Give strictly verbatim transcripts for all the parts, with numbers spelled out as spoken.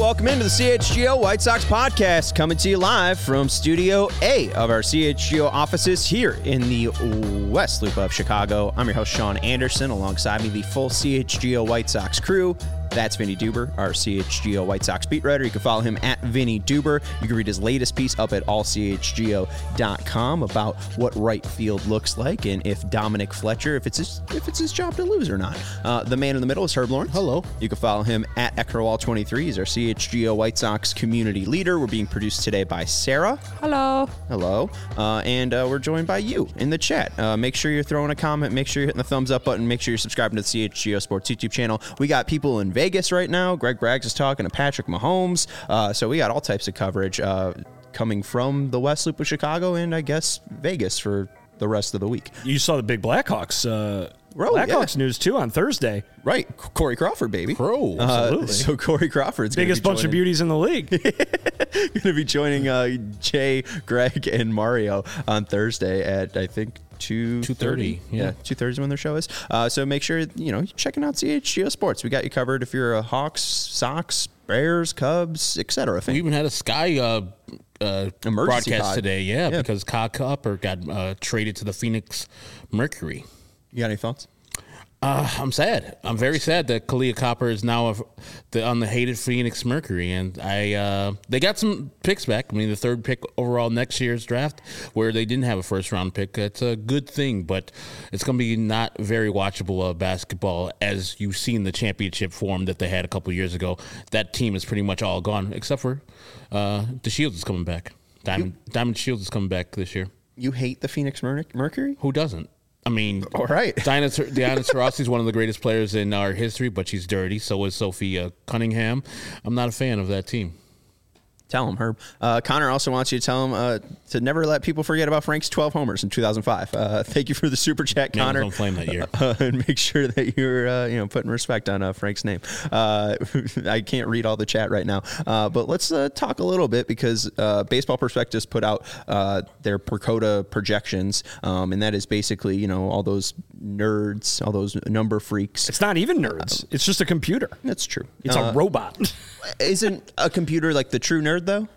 welcome into the C H G O White Sox podcast, coming to you live from Studio A of our C H G O offices here in the West Loop of Chicago. I'm your host, Sean Anderson. Alongside me, the full C H G O White Sox crew. That's Vinny Duber, our C H G O White Sox beat writer. You can follow him at Vinny Duber. You can read his latest piece up at all c h g o dot com about what right field looks like and if Dominic Fletcher, if it's his, if it's his job to lose or not. Uh, the man in the middle is Herb Lawrence. Hello. You can follow him at Eckerwall twenty-three. He's our C H G O White Sox community leader. We're being produced today by Sarah. Hello. Hello. Uh, and uh, we're joined by you in the chat. Uh, make sure you're throwing a comment. Make sure you're hitting the thumbs up button. Make sure you're subscribing to the C H G O Sports YouTube channel. We got people in Vegas right now. Greg Braggs is talking to Patrick Mahomes. Uh, so we got all types of coverage uh, coming from the West Loop of Chicago and I guess Vegas for the rest of the week. You saw the big Blackhawks. Uh, Oh, Blackhawks yeah. news, too, on Thursday. Right. Corey Crawford, baby. Crow. Uh, so Corey Crawford's biggest bunch of beauties in the league. Going to be joining uh, Jay, Greg, and Mario on Thursday at, I think, two thirty. Yeah. yeah, two thirty is when their show is. Uh, so make sure, you know, you're checking out C H G O Sports. We got you covered if you're a Hawks, Sox, Bears, Cubs, et cetera. We even had a Sky uh, uh, Emergency broadcast pod. today, yeah, Yeah. because Kyle Cooper got uh, traded to the Phoenix Mercury. You got any thoughts? Uh, I'm sad. I'm very sad that Kalia Copper is now a, the, on the hated Phoenix Mercury, and I uh, they got some picks back. I mean, the third pick overall next year's draft, where they didn't have a first round pick. That's a good thing, but it's going to be not very watchable uh, basketball as you've seen the championship form that they had a couple years ago. That team is pretty much all gone, except for uh, the Shields is coming back. Diamond you, Diamond Shields is coming back this year. You hate the Phoenix Mer- Mercury? Who doesn't? I mean, all right. Diana, Diana Taurasi is one of the greatest players in our history, but she's dirty. So is Sophia Cunningham. I'm not a fan of that team. Tell him, Herb. Uh, Connor also wants you to tell him uh, to never let people forget about Frank's twelve homers in two thousand five. Uh, thank you for the super chat, Man Connor. was on flame that year. Uh, and make sure that you're uh, you know putting respect on uh, Frank's name. Uh, I can't read all the chat right now, uh, but let's uh, talk a little bit because uh, Baseball Prospectus put out uh, their Percoda projections, um, and that is basically you know all those nerds, all those number freaks. It's not even nerds. Uh, it's just a computer. That's true. It's uh, a robot. Isn't a computer like the true nerd though?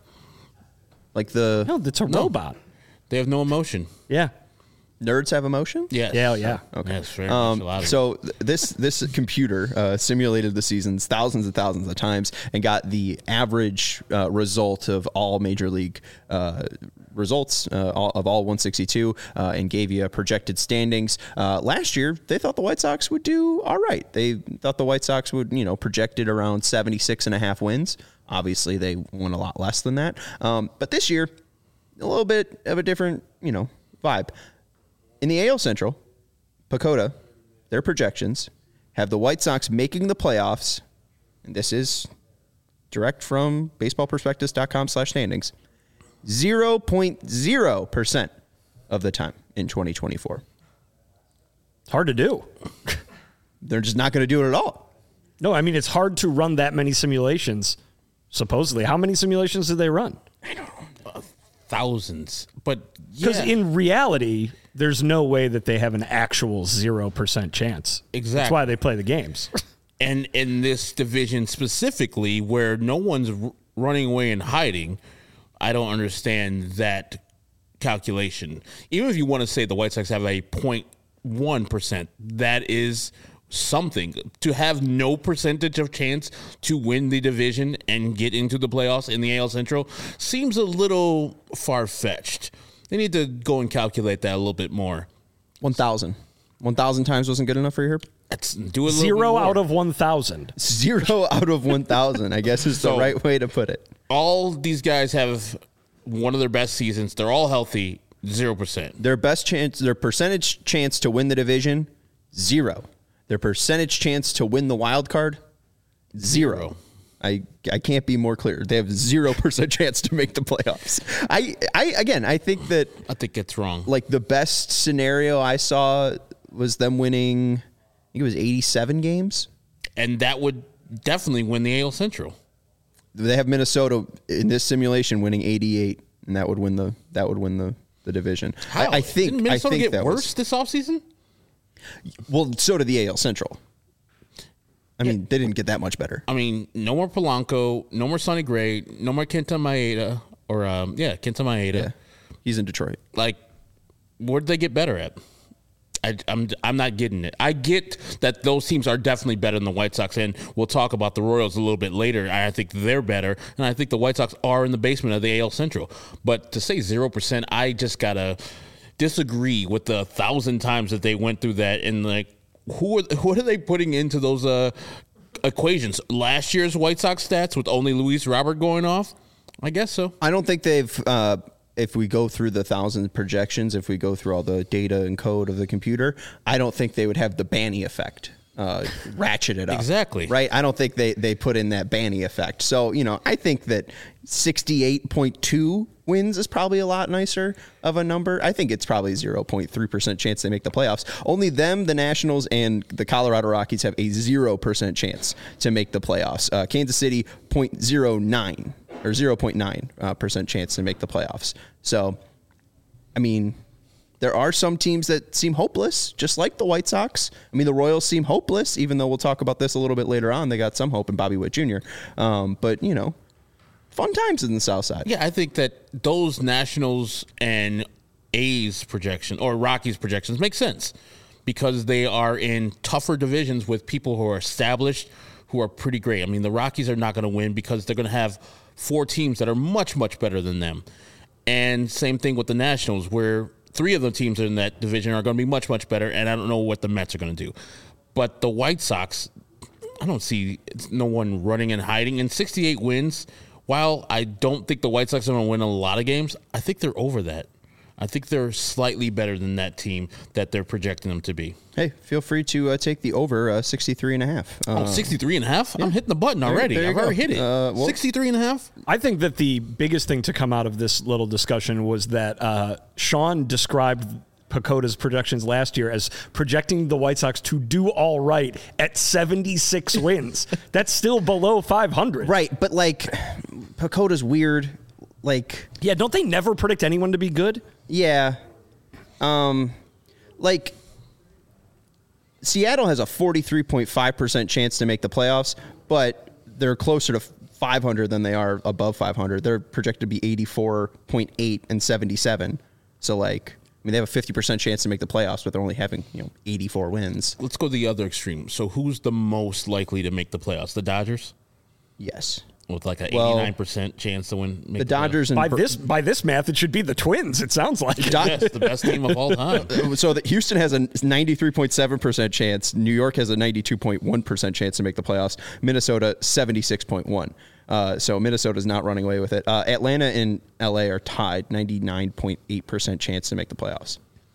Like the no, it's a no. robot. They have no emotion. Yeah, nerds have emotion. Yes. Yeah, yeah. Okay. Yes, very um, much a lot of so th- this this computer uh, simulated the seasons thousands and thousands of times and got the average uh, result of all major league uh, results uh, all, of all one sixty-two uh, and gave you a projected standings. Uh, last year, they thought the White Sox would do all right. They thought the White Sox would, you know, projected around seventy-six and a half wins. Obviously, they won a lot less than that. Um, but this year, a little bit of a different, you know, vibe. In the A L Central, Pacoda, their projections have the White Sox making the playoffs, and this is direct from baseball prospectus dot com slash standings, zero point zero percent of the time in twenty twenty-four. It's hard to do. They're just not going to do it at all. No, I mean, it's hard to run that many simulations, supposedly. How many simulations did they run? I don't know. Uh, thousands. But Because yeah. in reality, there's no way that they have an actual zero percent chance. Exactly. That's why they play the games. And in this division specifically, where no one's r- running away and hiding, I don't understand that calculation. Even if you want to say the White Sox have a zero point one percent, that is something. To have no percentage of chance to win the division and get into the playoffs in the A L Central seems a little far-fetched. They need to go and calculate that a little bit more. one thousand. one thousand times wasn't good enough for you, Herb? Let's do a little Zero bit more. out of one thousand. Zero out of one thousand, I guess is the So- right way to put it. All these guys have one of their best seasons. They're all healthy. Zero percent. Their best chance, their percentage chance to win the division, zero. Their percentage chance to win the wild card, zero. Zero. I I can't be more clear. They have zero percent chance to make the playoffs. I I again I think that I think it's wrong. like the best scenario I saw was them winning. I think it was eighty-seven games. And that would definitely win the A L Central. They have Minnesota in this simulation winning eighty-eight, and that would win the that would win the, the division. How? I, I think Didn't Minnesota I think get that worse was, this offseason? well, so did the A L Central. I mean, they didn't get that much better. I mean, no more Polanco, no more Sonny Gray, no more Kenta Maeda, or um, yeah, Kenta Maeda. Yeah. He's in Detroit. Like, where did they get better at? I, I'm I'm not getting it. I get that those teams are definitely better than the White Sox, and we'll talk about the Royals a little bit later. I think they're better, and I think the White Sox are in the basement of the A L Central. But to say zero percent, I just gotta disagree with the thousand times that they went through that. And like, who are, what are they putting into those uh, equations? Last year's White Sox stats with only Luis Robert going off? I guess so. I don't think they've. Uh, If we go through the thousand projections, if we go through all the data and code of the computer, I don't think they would have the Banny effect, uh, ratchet it up. Exactly. Right? I don't think they, they put in that Banny effect. So, you know, I think that sixty-eight point two wins is probably a lot nicer of a number. I think it's probably zero point three percent chance they make the playoffs. Only them, the Nationals, and the Colorado Rockies have a zero percent chance to make the playoffs. Uh, Kansas City, zero point zero nine. Or zero point nine uh, percent chance to make the playoffs. So, I mean, there are some teams that seem hopeless, just like the White Sox. I mean, the Royals seem hopeless, even though we'll talk about this a little bit later on. They got some hope in Bobby Witt Junior Um, but, you know, fun times in the South Side. Yeah, I think that those Nationals and A's projection or Rockies projections make sense because they are in tougher divisions with people who are established, who are pretty great. I mean, the Rockies are not going to win because they're going to have four teams that are much, much better than them. And same thing with the Nationals, where three of the teams in that division are going to be much, much better, and I don't know what the Mets are going to do. But the White Sox, I don't see no one running and hiding. And sixty-eight wins, while I don't think the White Sox are going to win a lot of games, I think they're over that. I think they're slightly better than that team that they're projecting them to be. Hey, feel free to uh, take the over uh, sixty-three and a half. Uh, Oh, sixty-three and a half? Yeah. I'm hitting the button already. There, there I've already go. hit it. Uh, well, sixty-three and a half? I think that the biggest thing to come out of this little discussion was that uh, Sean described Pacoda's projections last year as projecting the White Sox to do all right at seventy-six wins. That's still below five hundred. Right, but, like, Pacoda's weird. Like, yeah, don't they never predict anyone to be good? Yeah. Um, like, Seattle has a forty-three point five percent chance to make the playoffs, but they're closer to five hundred than they are above five hundred. They're projected to be eighty-four point eight and seventy-seven. So, like, I mean, they have a fifty percent chance to make the playoffs, but they're only having, you know, eighty-four wins. Let's go the other extreme. So who's the most likely to make the playoffs? The Dodgers? Yes. With like an Well, eighty-nine percent chance to win. Make The Dodgers and By Bur- this by this math, it should be the Twins. It sounds like. Do- Yes, the best team of all time. So that Houston has a ninety-three point seven percent chance. New York has a ninety-two point one percent chance to make the playoffs. Minnesota, seventy-six point one. Uh, so Minnesota's not running away with it. Uh, Atlanta and L A are tied, ninety-nine point eight percent chance to make the playoffs.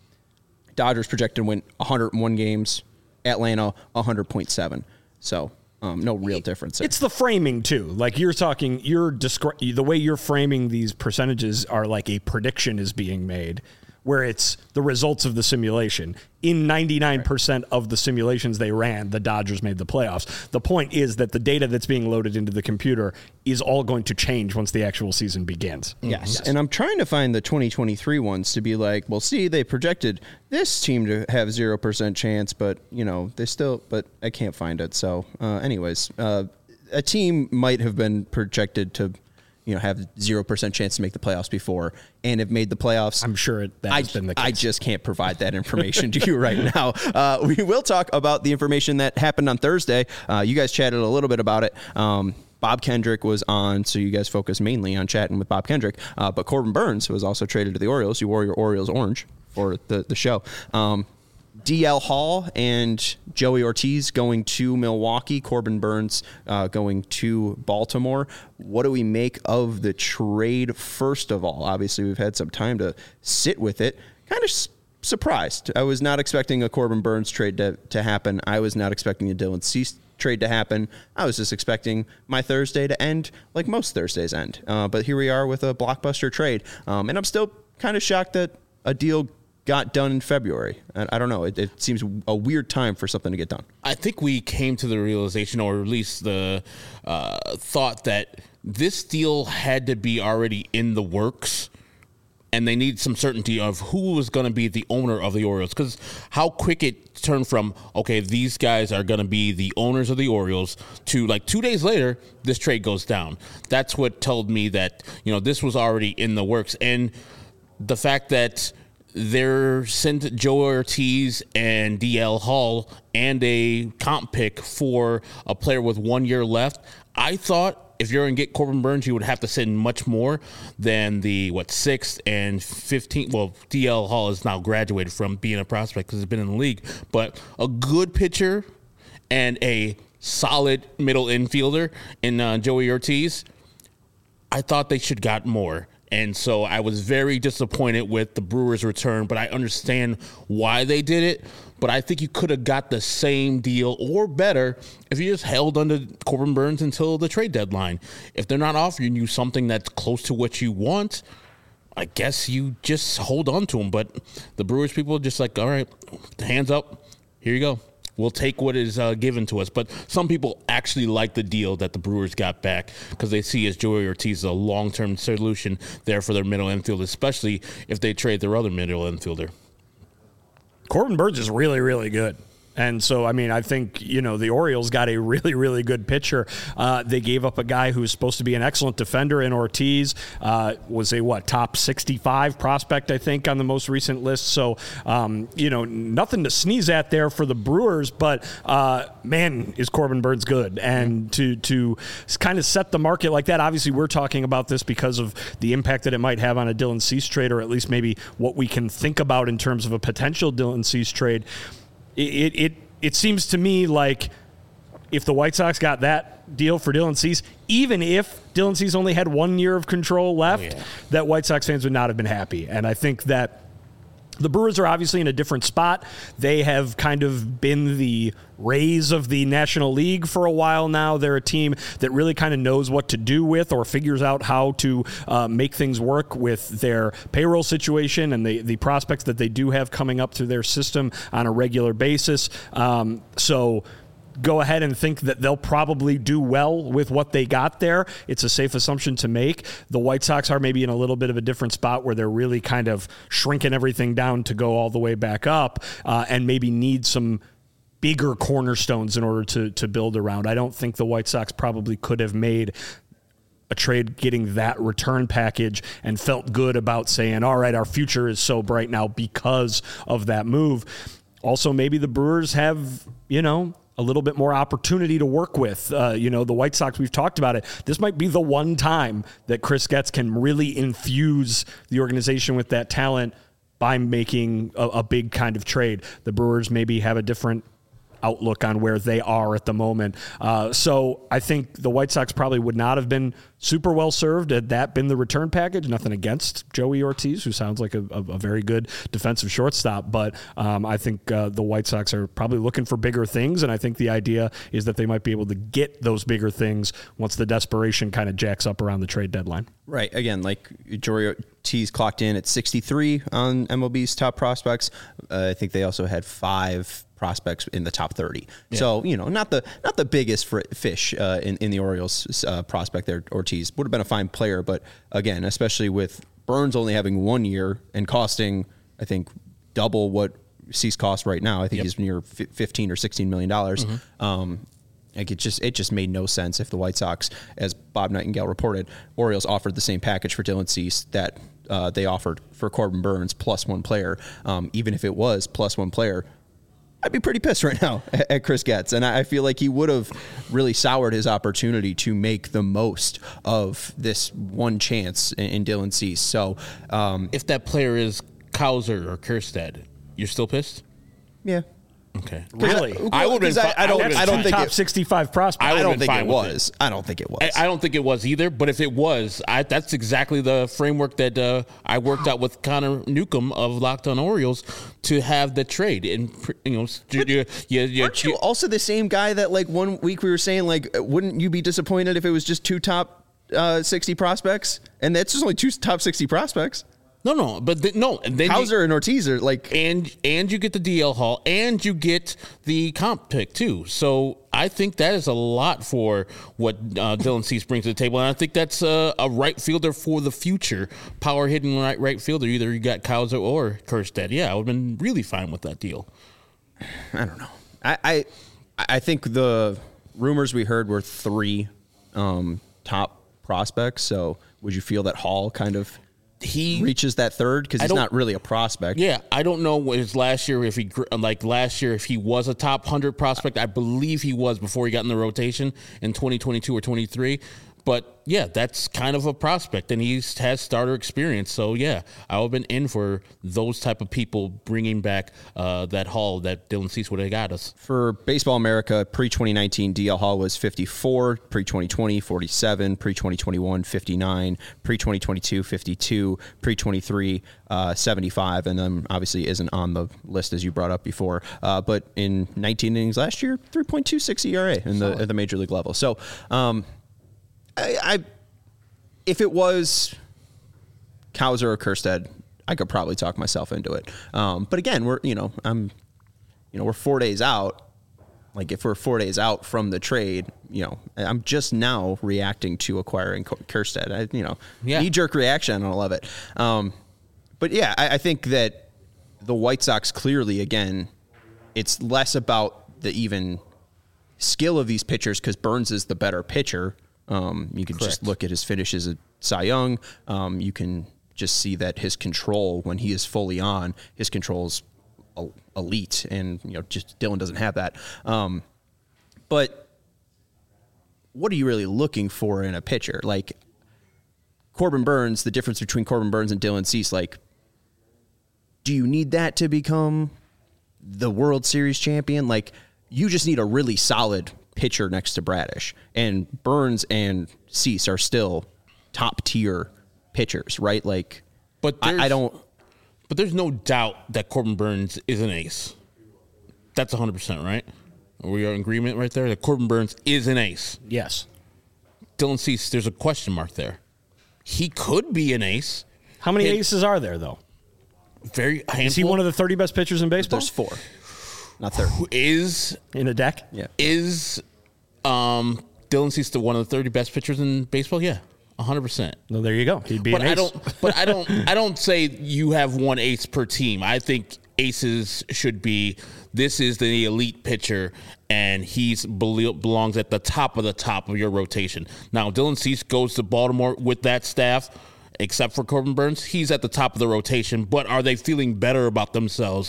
Dodgers projected to win one hundred one games. Atlanta, one hundred point seven. So um, no real difference there. It's the framing too. Like you're talking, you're descri- the way you're framing these percentages are like a prediction is being made, where it's the results of the simulation. In ninety-nine percent of the simulations they ran, the Dodgers made the playoffs. The point is that the data that's being loaded into the computer is all going to change once the actual season begins. Yes. yes. And I'm trying to find the twenty twenty-three ones to be like, well, see, they projected this team to have zero percent chance, but, you know, they still, but I can't find it. So, uh, anyways, uh, a team might have been projected to, you know, have zero percent chance to make the playoffs before and have made the playoffs. I'm sure it, that I, has been the case. I just can't provide that information to you right now. Uh, we will talk about the information that happened on Thursday. Uh, you guys chatted a little bit about it. Um, Bob Kendrick was on, so you guys focus mainly on chatting with Bob Kendrick. Uh, but Corbin Burns was also traded to the Orioles. You wore your Orioles orange for the, the show. Um, D L Hall and Joey Ortiz going to Milwaukee. Corbin Burns uh, going to Baltimore. What do we make of the trade, first of all? Obviously, we've had some time to sit with it. Kind of s- surprised. I was not expecting a Corbin Burns trade to, to happen. I was not expecting a Dylan Cease trade to happen. I was just expecting my Thursday to end like most Thursdays end. Uh, but here we are with a blockbuster trade. Um, and I'm still kind of shocked that a deal got done in February. I, I don't know. It, it seems a weird time for something to get done. I think we came to the realization, or at least the uh, thought that this deal had to be already in the works and they need some certainty of who was going to be the owner of the Orioles, because how quick it turned from, okay, these guys are going to be the owners of the Orioles, to like two days later, this trade goes down. That's what told me that, you know, this was already in the works. And the fact that they're sent Joe Ortiz and D L Hall and a comp pick for a player with one year left, I thought if you're going to get Corbin Burnes, you would have to send much more than the, what, sixth and fifteenth. Well, D L Hall is now graduated from being a prospect because he's been in the league. But a good pitcher and a solid middle infielder in uh, Joey Ortiz, I thought they should got more. And so I was very disappointed with the Brewers' return, but I understand why they did it. But I think you could have got the same deal or better if you just held under Corbin Burnes until the trade deadline. If they're not offering you something that's close to what you want, I guess you just hold on to them. But the Brewers people are just like, all right, hands up, here you go. We'll take what is uh, given to us. But some people actually like the deal that the Brewers got back because they see as Joey Ortiz a long-term solution there for their middle infield, especially if they trade their other middle infielder. Corbin Burnes is really, really good. And so, I mean, I think, you know, the Orioles got a really, really good pitcher. Uh, they gave up a guy who's supposed to be an excellent defender in Ortiz, uh, was a, what, top sixty-five prospect, I think, on the most recent list. So, um, you know, nothing to sneeze at there for the Brewers, but, uh, man, is Corbin Burnes good. And to, to kind of set the market like that, obviously we're talking about this because of the impact that it might have on a Dylan Cease trade, or at least maybe what we can think about in terms of a potential Dylan Cease trade. It, it it seems to me like if the White Sox got that deal for Dylan Cease, even if Dylan Cease only had one year of control left, oh, yeah. that White Sox fans would not have been happy. And I think that the Brewers are obviously in a different spot. They have kind of been the Rays of the National League for a while now. They're a team that really kind of knows what to do with or figures out how to uh, make things work with their payroll situation and the, the prospects that they do have coming up through their system on a regular basis. Um, so go ahead and think that they'll probably do well with what they got there. It's a safe assumption to make. The White Sox are maybe in a little bit of a different spot where they're really kind of shrinking everything down to go all the way back up uh, and maybe need some bigger cornerstones in order to to build around. I don't think the White Sox probably could have made a trade getting that return package and felt good about saying, all right, our future is so bright now because of that move. Also, maybe the Brewers have, you know, a little bit more opportunity to work with. Uh, you know, the White Sox, we've talked about it. This might be the one time that Chris Getz can really infuse the organization with that talent by making a, a big kind of trade. The Brewers maybe have a different outlook on where they are at the moment. Uh, so I think the White Sox probably would not have been super well served had that been the return package. Nothing against Joey Ortiz, who sounds like a, a, a very good defensive shortstop, but um, I think uh, the White Sox are probably looking for bigger things, and I think the idea is that they might be able to get those bigger things once the desperation kind of jacks up around the trade deadline. Right. Again, like Joey Ortiz clocked in at sixty-three on M L B's top prospects. Uh, I think they also had five prospects in the top thirty. Yeah. So, you know, not the not the biggest fr- fish uh, in, in the Orioles uh, prospect there. Ortiz would have been a fine player, but again, especially with Burnes only having one year and costing, I think, double what Cease costs right now. I think yep. he's near fifteen or sixteen million dollars. Mm-hmm. Um, like it just it just made no sense if the White Sox, as Bob Nightingale reported, Orioles offered the same package for Dylan Cease that uh, they offered for Corbin Burnes plus one player. Um, even if it was plus one player, I'd be pretty pissed right now at, at Chris Getz. And I, I feel like he would have really soured his opportunity to make the most of this one chance in, in Dylan Cease. So um, if that player is Cowser or Kjerstad, you're still pissed? Yeah. Okay. Really? I, I would have. I, I don't. I don't think top it, sixty-five prospects. I, I don't think it was. It. I don't think it was. I, I don't think it was either. But if it was, I, that's exactly the framework that uh, I worked out with Connor Newcomb of Locked On Orioles to have the trade. And you know, you, you, you, aren't you also the same guy that like one week we were saying like, wouldn't you be disappointed if it was just two top uh, sixty prospects? And that's just only two top sixty prospects. No, no, but the, no. And then Cowser and Ortiz are like, and and you get the D L Hall, and you get the comp pick too. So I think that is a lot for what uh, Dylan Cease brings to the table, and I think that's uh, a right fielder for the future, power hitting right right fielder. Either you got Cowser or Kjerstad. Yeah, I would have been really fine with that deal. I don't know. I I, I think the rumors we heard were three um, top prospects. So would you feel that Hall kind of he reaches that third because he's not really a prospect? Yeah, I don't know his last year if he like last year if he was a top one hundred prospect. I believe he was before he got in the rotation in twenty twenty-two or twenty-three. But yeah, that's kind of a prospect, and he has starter experience. So yeah, I would have been in for those type of people bringing back uh, that Hall that Dylan Cease would have got us. For Baseball America, pre twenty nineteen, D L Hall was fifty-four, pre twenty twenty, forty-seven, pre twenty twenty-one, fifty-nine, pre twenty twenty-two, fifty-two, pre twenty-three, uh, seventy-five, and then obviously isn't on the list as you brought up before. Uh, but in nineteen innings last year, three point two six E R A in the at the major league level. So. Um, I, I, if it was Cowser or Kjerstad, I could probably talk myself into it. Um, but again, we're you know I'm, you know we're four days out. Like if we're four days out from the trade, you know I'm just now reacting to acquiring Kjerstad. I, you know, yeah. knee jerk reaction. I don't love it. Um, but yeah, I, I think that the White Sox clearly again, it's less about the even skill of these pitchers because Burns is the better pitcher. Um, you can Correct. just look at his finishes at Cy Young. Um, you can just see that his control, when he is fully on, his control is elite, and you know, just Dylan doesn't have that. Um, but what are you really looking for in a pitcher? Like Corbin Burns, the difference between Corbin Burns and Dylan Cease, like, do you need that to become the World Series champion? Like, you just need a really solid pitcher next to Bradish, and Burns and Cease are still top tier pitchers, right? Like, but I, I don't. But there's no doubt that Corbin Burns is an ace. That's one hundred percent, right? Are we in agreement right there? That Corbin Burns is an ace. Yes. Dylan Cease, there's a question mark there. He could be an ace. How many It- aces are there, though? Very handful. Is he one of the thirty best pitchers in baseball? There's four, not thirty. Who is In a deck? Yeah. is um, Dylan Cease the one of the thirty best pitchers in baseball? Yeah, one hundred percent. Well, there you go. He'd be But an ace. I don't. But I don't. I don't say you have one ace per team. I think aces should be. This is the elite pitcher, and he's belongs at the top of the top of your rotation. Now, Dylan Cease goes to Baltimore with that staff, except for Corbin Burns. He's at the top of the rotation. But are they feeling better about themselves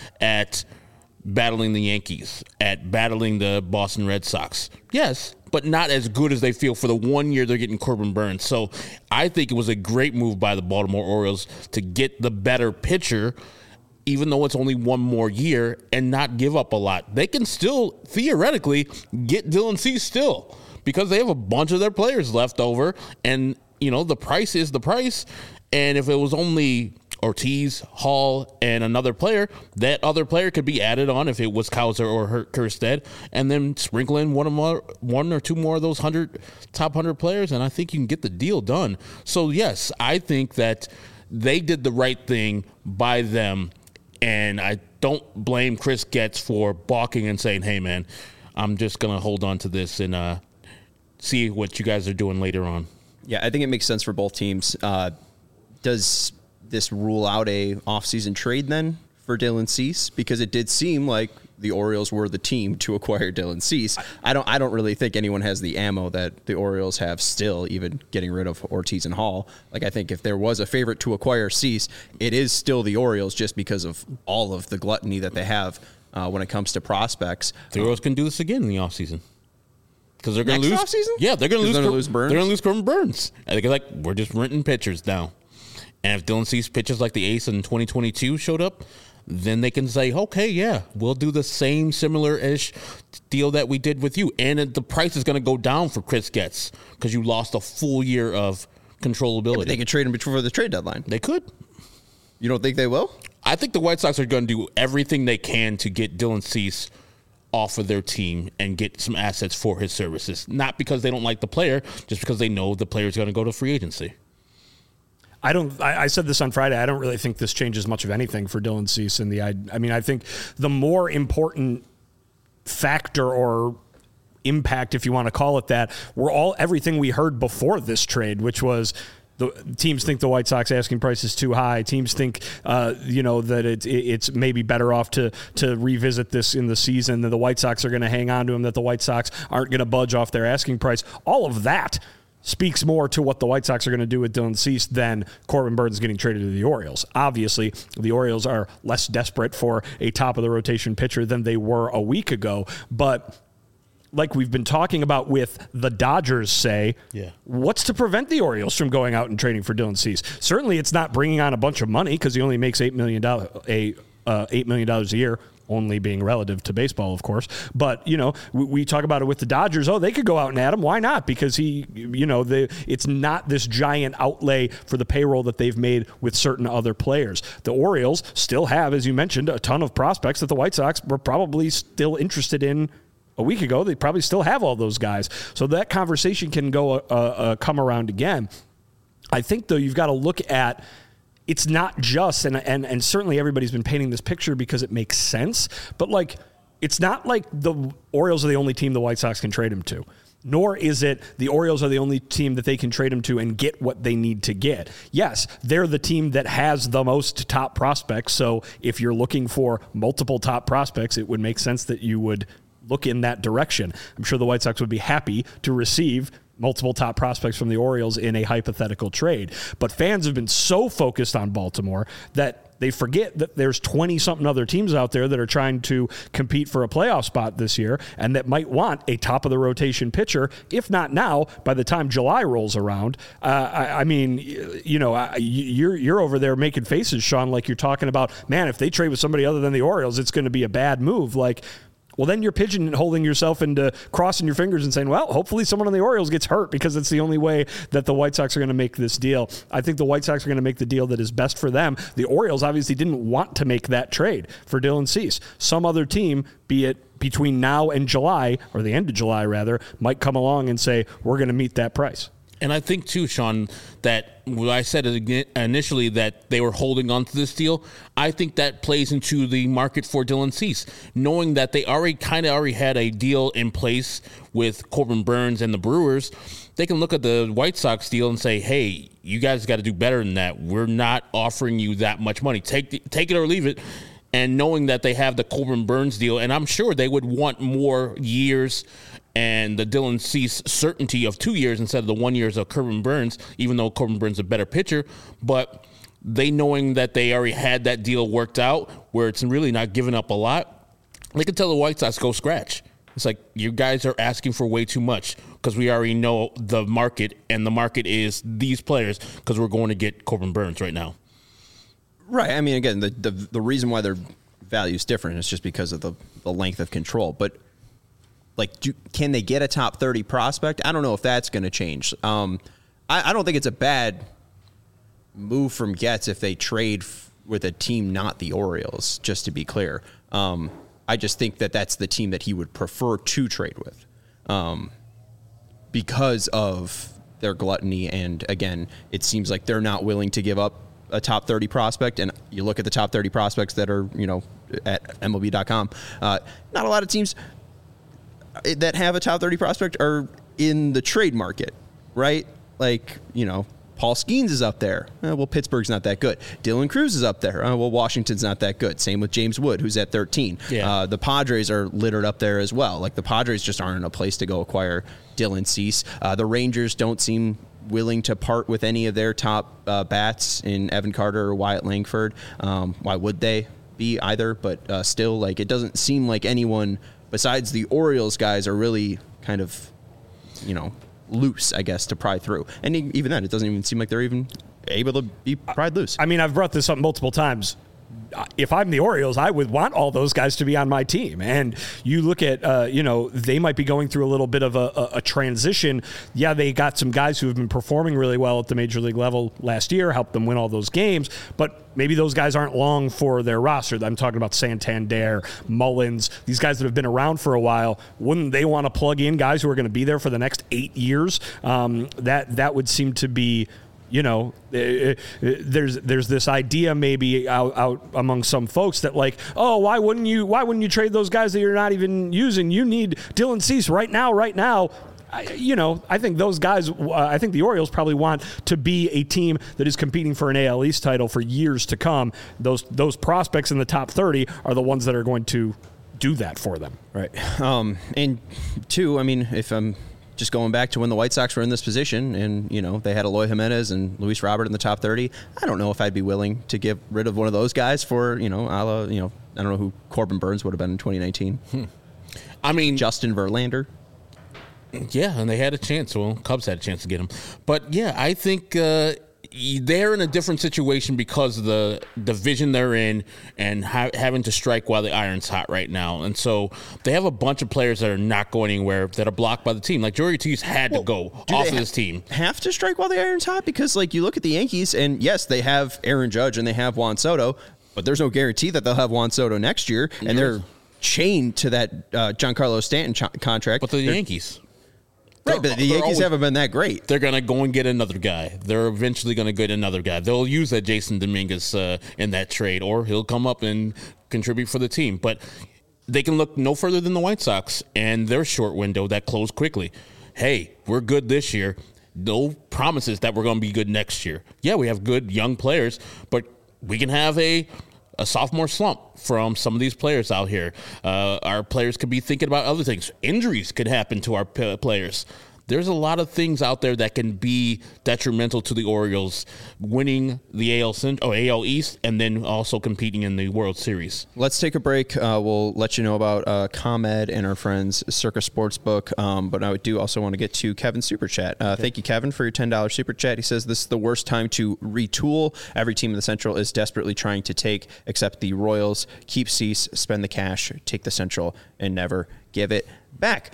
at battling the Yankees, at battling the Boston Red Sox? Yes, but not as good as they feel for the one year they're getting Corbin Burns. So I think it was a great move by the Baltimore Orioles to get the better pitcher, even though it's only one more year, and not give up a lot. They can still, theoretically, get Dylan Cease still, because they have a bunch of their players left over, and, you know, the price is the price. And if it was only Ortiz, Hall, and another player, that other player could be added on if it was Cowser or Kjerstad, and then sprinkle in one, of more, one or two more of those hundred top one hundred players, and I think you can get the deal done. So, yes, I think that they did the right thing by them, and I don't blame Chris Getz for balking and saying, hey, man, I'm just going to hold on to this and uh, see what you guys are doing later on. Yeah, I think it makes sense for both teams. Uh, does this rule out a offseason trade then for Dylan Cease? Because it did seem like the Orioles were the team to acquire Dylan Cease. I don't I don't really think anyone has the ammo that the Orioles have still, even getting rid of Ortiz and Hall. Like, I think if there was a favorite to acquire Cease, it is still the Orioles, just because of all of the gluttony that they have uh, when it comes to prospects. The Orioles can do this again in the offseason. Because they're going to Next lose. offseason? Yeah, they're going to lose, They're gonna Cor- lose Burns? They're going to lose Corbin Burns. I think, like, we're just renting pitchers now. And if Dylan Cease pitches like the ace in twenty twenty-two showed up, then they can say, okay, yeah, we'll do the same similar-ish deal that we did with you. And the price is going to go down for Chris Getz because you lost a full year of controllability. But they could trade him before the trade deadline. They could. You don't think they will? I think the White Sox are going to do everything they can to get Dylan Cease off of their team and get some assets for his services. Not because they don't like the player, just because they know the player is going to go to free agency. I don't. I, I said this on Friday. I don't really think this changes much of anything for Dylan Cease. In the, I, I mean, I think the more important factor or impact, if you want to call it that, were all everything we heard before this trade, which was the teams think the White Sox asking price is too high. Teams think, uh, you know, that it's it's maybe better off to to revisit this in the season. That the White Sox are going to hang on to him. That the White Sox aren't going to budge off their asking price. All of that speaks more to what the White Sox are going to do with Dylan Cease than Corbin Burnes getting traded to the Orioles. Obviously, the Orioles are less desperate for a top of the rotation pitcher than they were a week ago, but like we've been talking about with the Dodgers, say, yeah. what's to prevent the Orioles from going out and trading for Dylan Cease? Certainly it's not bringing on a bunch of money because he only makes eight million dollars a, uh, eight million dollars a year, only being relative to baseball, of course. But, you know, we, we talk about it with the Dodgers. Oh, they could go out and add him. Why not? Because he, you know, the, it's not this giant outlay for the payroll that they've made with certain other players. The Orioles still have, as you mentioned, a ton of prospects that the White Sox were probably still interested in a week ago. They probably still have all those guys. So that conversation can go uh, uh, come around again. I think, though, you've got to look at it's not just, and, and and certainly everybody's been painting this picture because it makes sense, but like it's not like the Orioles are the only team the White Sox can trade him to. Nor is it the Orioles are the only team that they can trade him to and get what they need to get. Yes, they're the team that has the most top prospects. So if you're looking for multiple top prospects, it would make sense that you would look in that direction. I'm sure the White Sox would be happy to receive multiple top prospects from the Orioles in a hypothetical trade. But fans have been so focused on Baltimore that they forget that there's twenty-something other teams out there that are trying to compete for a playoff spot this year and that might want a top-of-the-rotation pitcher, if not now, by the time July rolls around. Uh, I, I mean, you know, you're, you're over there making faces, Sean, like you're talking about, man, if they trade with somebody other than the Orioles, it's going to be a bad move. Like, well, then you're pigeonholing yourself into crossing your fingers and saying, well, hopefully someone on the Orioles gets hurt because it's the only way that the White Sox are going to make this deal. I think the White Sox are going to make the deal that is best for them. The Orioles obviously didn't want to make that trade for Dylan Cease. Some other team, be it between now and July, or the end of July rather, might come along and say, we're going to meet that price. And I think, too, Sean, that when I said it initially that they were holding on to this deal, I think that plays into the market for Dylan Cease, knowing that they already kind of already had a deal in place with Corbin Burnes and the Brewers. They can look at the White Sox deal and say, hey, you guys got to do better than that. We're not offering you that much money. Take the, take it or leave it. And knowing that they have the Corbin Burnes deal, and I'm sure they would want more years and the Dylan Cease certainty of two years instead of the one years of Corbin Burnes, even though Corbin Burnes is a better pitcher. But they knowing that they already had that deal worked out where it's really not giving up a lot, they can tell the White Sox, go scratch. It's like, you guys are asking for way too much because we already know the market, and the market is these players because we're going to get Corbin Burnes right now. Right. I mean, again, the, the, the reason why their value is different is just because of the, the length of control. But Like, do, can they get a top thirty prospect? I don't know if that's going to change. Um, I, I don't think it's a bad move from Getz if they trade f- with a team not the Orioles, just to be clear. Um, I just think that that's the team that he would prefer to trade with um, because of their gluttony. And, again, it seems like they're not willing to give up a top thirty prospect. And you look at the top thirty prospects that are, you know, at M L B dot com, uh, not a lot of teams that have a top thirty prospect are in the trade market, right? Like, you know, Paul Skeens is up there. Uh, well, Pittsburgh's not that good. Dylan Cruz is up there. Uh, well, Washington's not that good. Same with James Wood, who's at thirteen. Yeah. Uh, the Padres are littered up there as well. Like, the Padres just aren't in a place to go acquire Dylan Cease. Uh, the Rangers don't seem willing to part with any of their top uh, bats in Evan Carter or Wyatt Langford. Um, why would they be either? But uh, still, like, it doesn't seem like anyone besides the Orioles guys are really kind of, you know, loose, I guess, to pry through. And even then, it doesn't even seem like they're even able to be pried loose. I mean, I've brought this up multiple times. If I'm the Orioles, I would want all those guys to be on my team. And you look at, uh, you know, they might be going through a little bit of a, a, a transition. Yeah, they got some guys who have been performing really well at the major league level last year, helped them win all those games. But maybe those guys aren't long for their roster. I'm talking about Santander, Mullins, these guys that have been around for a while. Wouldn't they want to plug in guys who are going to be there for the next eight years? Um, that that would seem to be You know, there's there's this idea maybe out, out among some folks that like, oh, why wouldn't you why wouldn't you trade those guys that you're not even using? You need Dylan Cease right now, right now. I, you know, I think those guys, uh, I think the Orioles probably want to be a team that is competing for an A L East title for years to come. Those those prospects in the top thirty are the ones that are going to do that for them. Right. Um, and two, I mean, if I'm just going back to when the White Sox were in this position and, you know, they had Eloy Jimenez and Luis Robert in the top thirty, I don't know if I'd be willing to get rid of one of those guys for, you know, a la, you know, I don't know who Corbin Burns would have been in twenty nineteen. Hmm. I mean, Justin Verlander. Yeah, and they had a chance. Well, Cubs had a chance to get him. But, yeah, I think uh, they're in a different situation because of the division they're in and ha- having to strike while the iron's hot right now. And so they have a bunch of players that are not going anywhere that are blocked by the team. Like, Joey Ortiz had well, to go off of this team. Have to strike while the iron's hot? Because, like, you look at the Yankees, and, yes, they have Aaron Judge and they have Juan Soto, but there's no guarantee that they'll have Juan Soto next year. And yes. they're chained to that uh, Giancarlo Stanton ch- contract. But the they're, Yankees. Right, but the Yankees always, haven't been that great. They're going to go and get another guy. They're eventually going to get another guy. They'll use that Jason Dominguez uh, in that trade, or he'll come up and contribute for the team. But they can look no further than the White Sox and their short window that closed quickly. Hey, we're good this year. No promises that we're going to be good next year. Yeah, we have good young players, but we can have a a sophomore slump from some of these players out here. Uh, our players could be thinking about other things. Injuries could happen to our p- players. There's a lot of things out there that can be detrimental to the Orioles winning the A L Cent- oh, A L East and then also competing in the World Series. Let's take a break. Uh, we'll let you know about uh, ComEd and our friends Circa Sportsbook. Um, but I do also want to get to Kevin's Super Chat. Uh, okay. Thank you, Kevin, for your ten dollars Super Chat. He says this is the worst time to retool. Every team in the Central is desperately trying to take, except the Royals. Keep Cease, spend the cash, take the Central, and never give it back.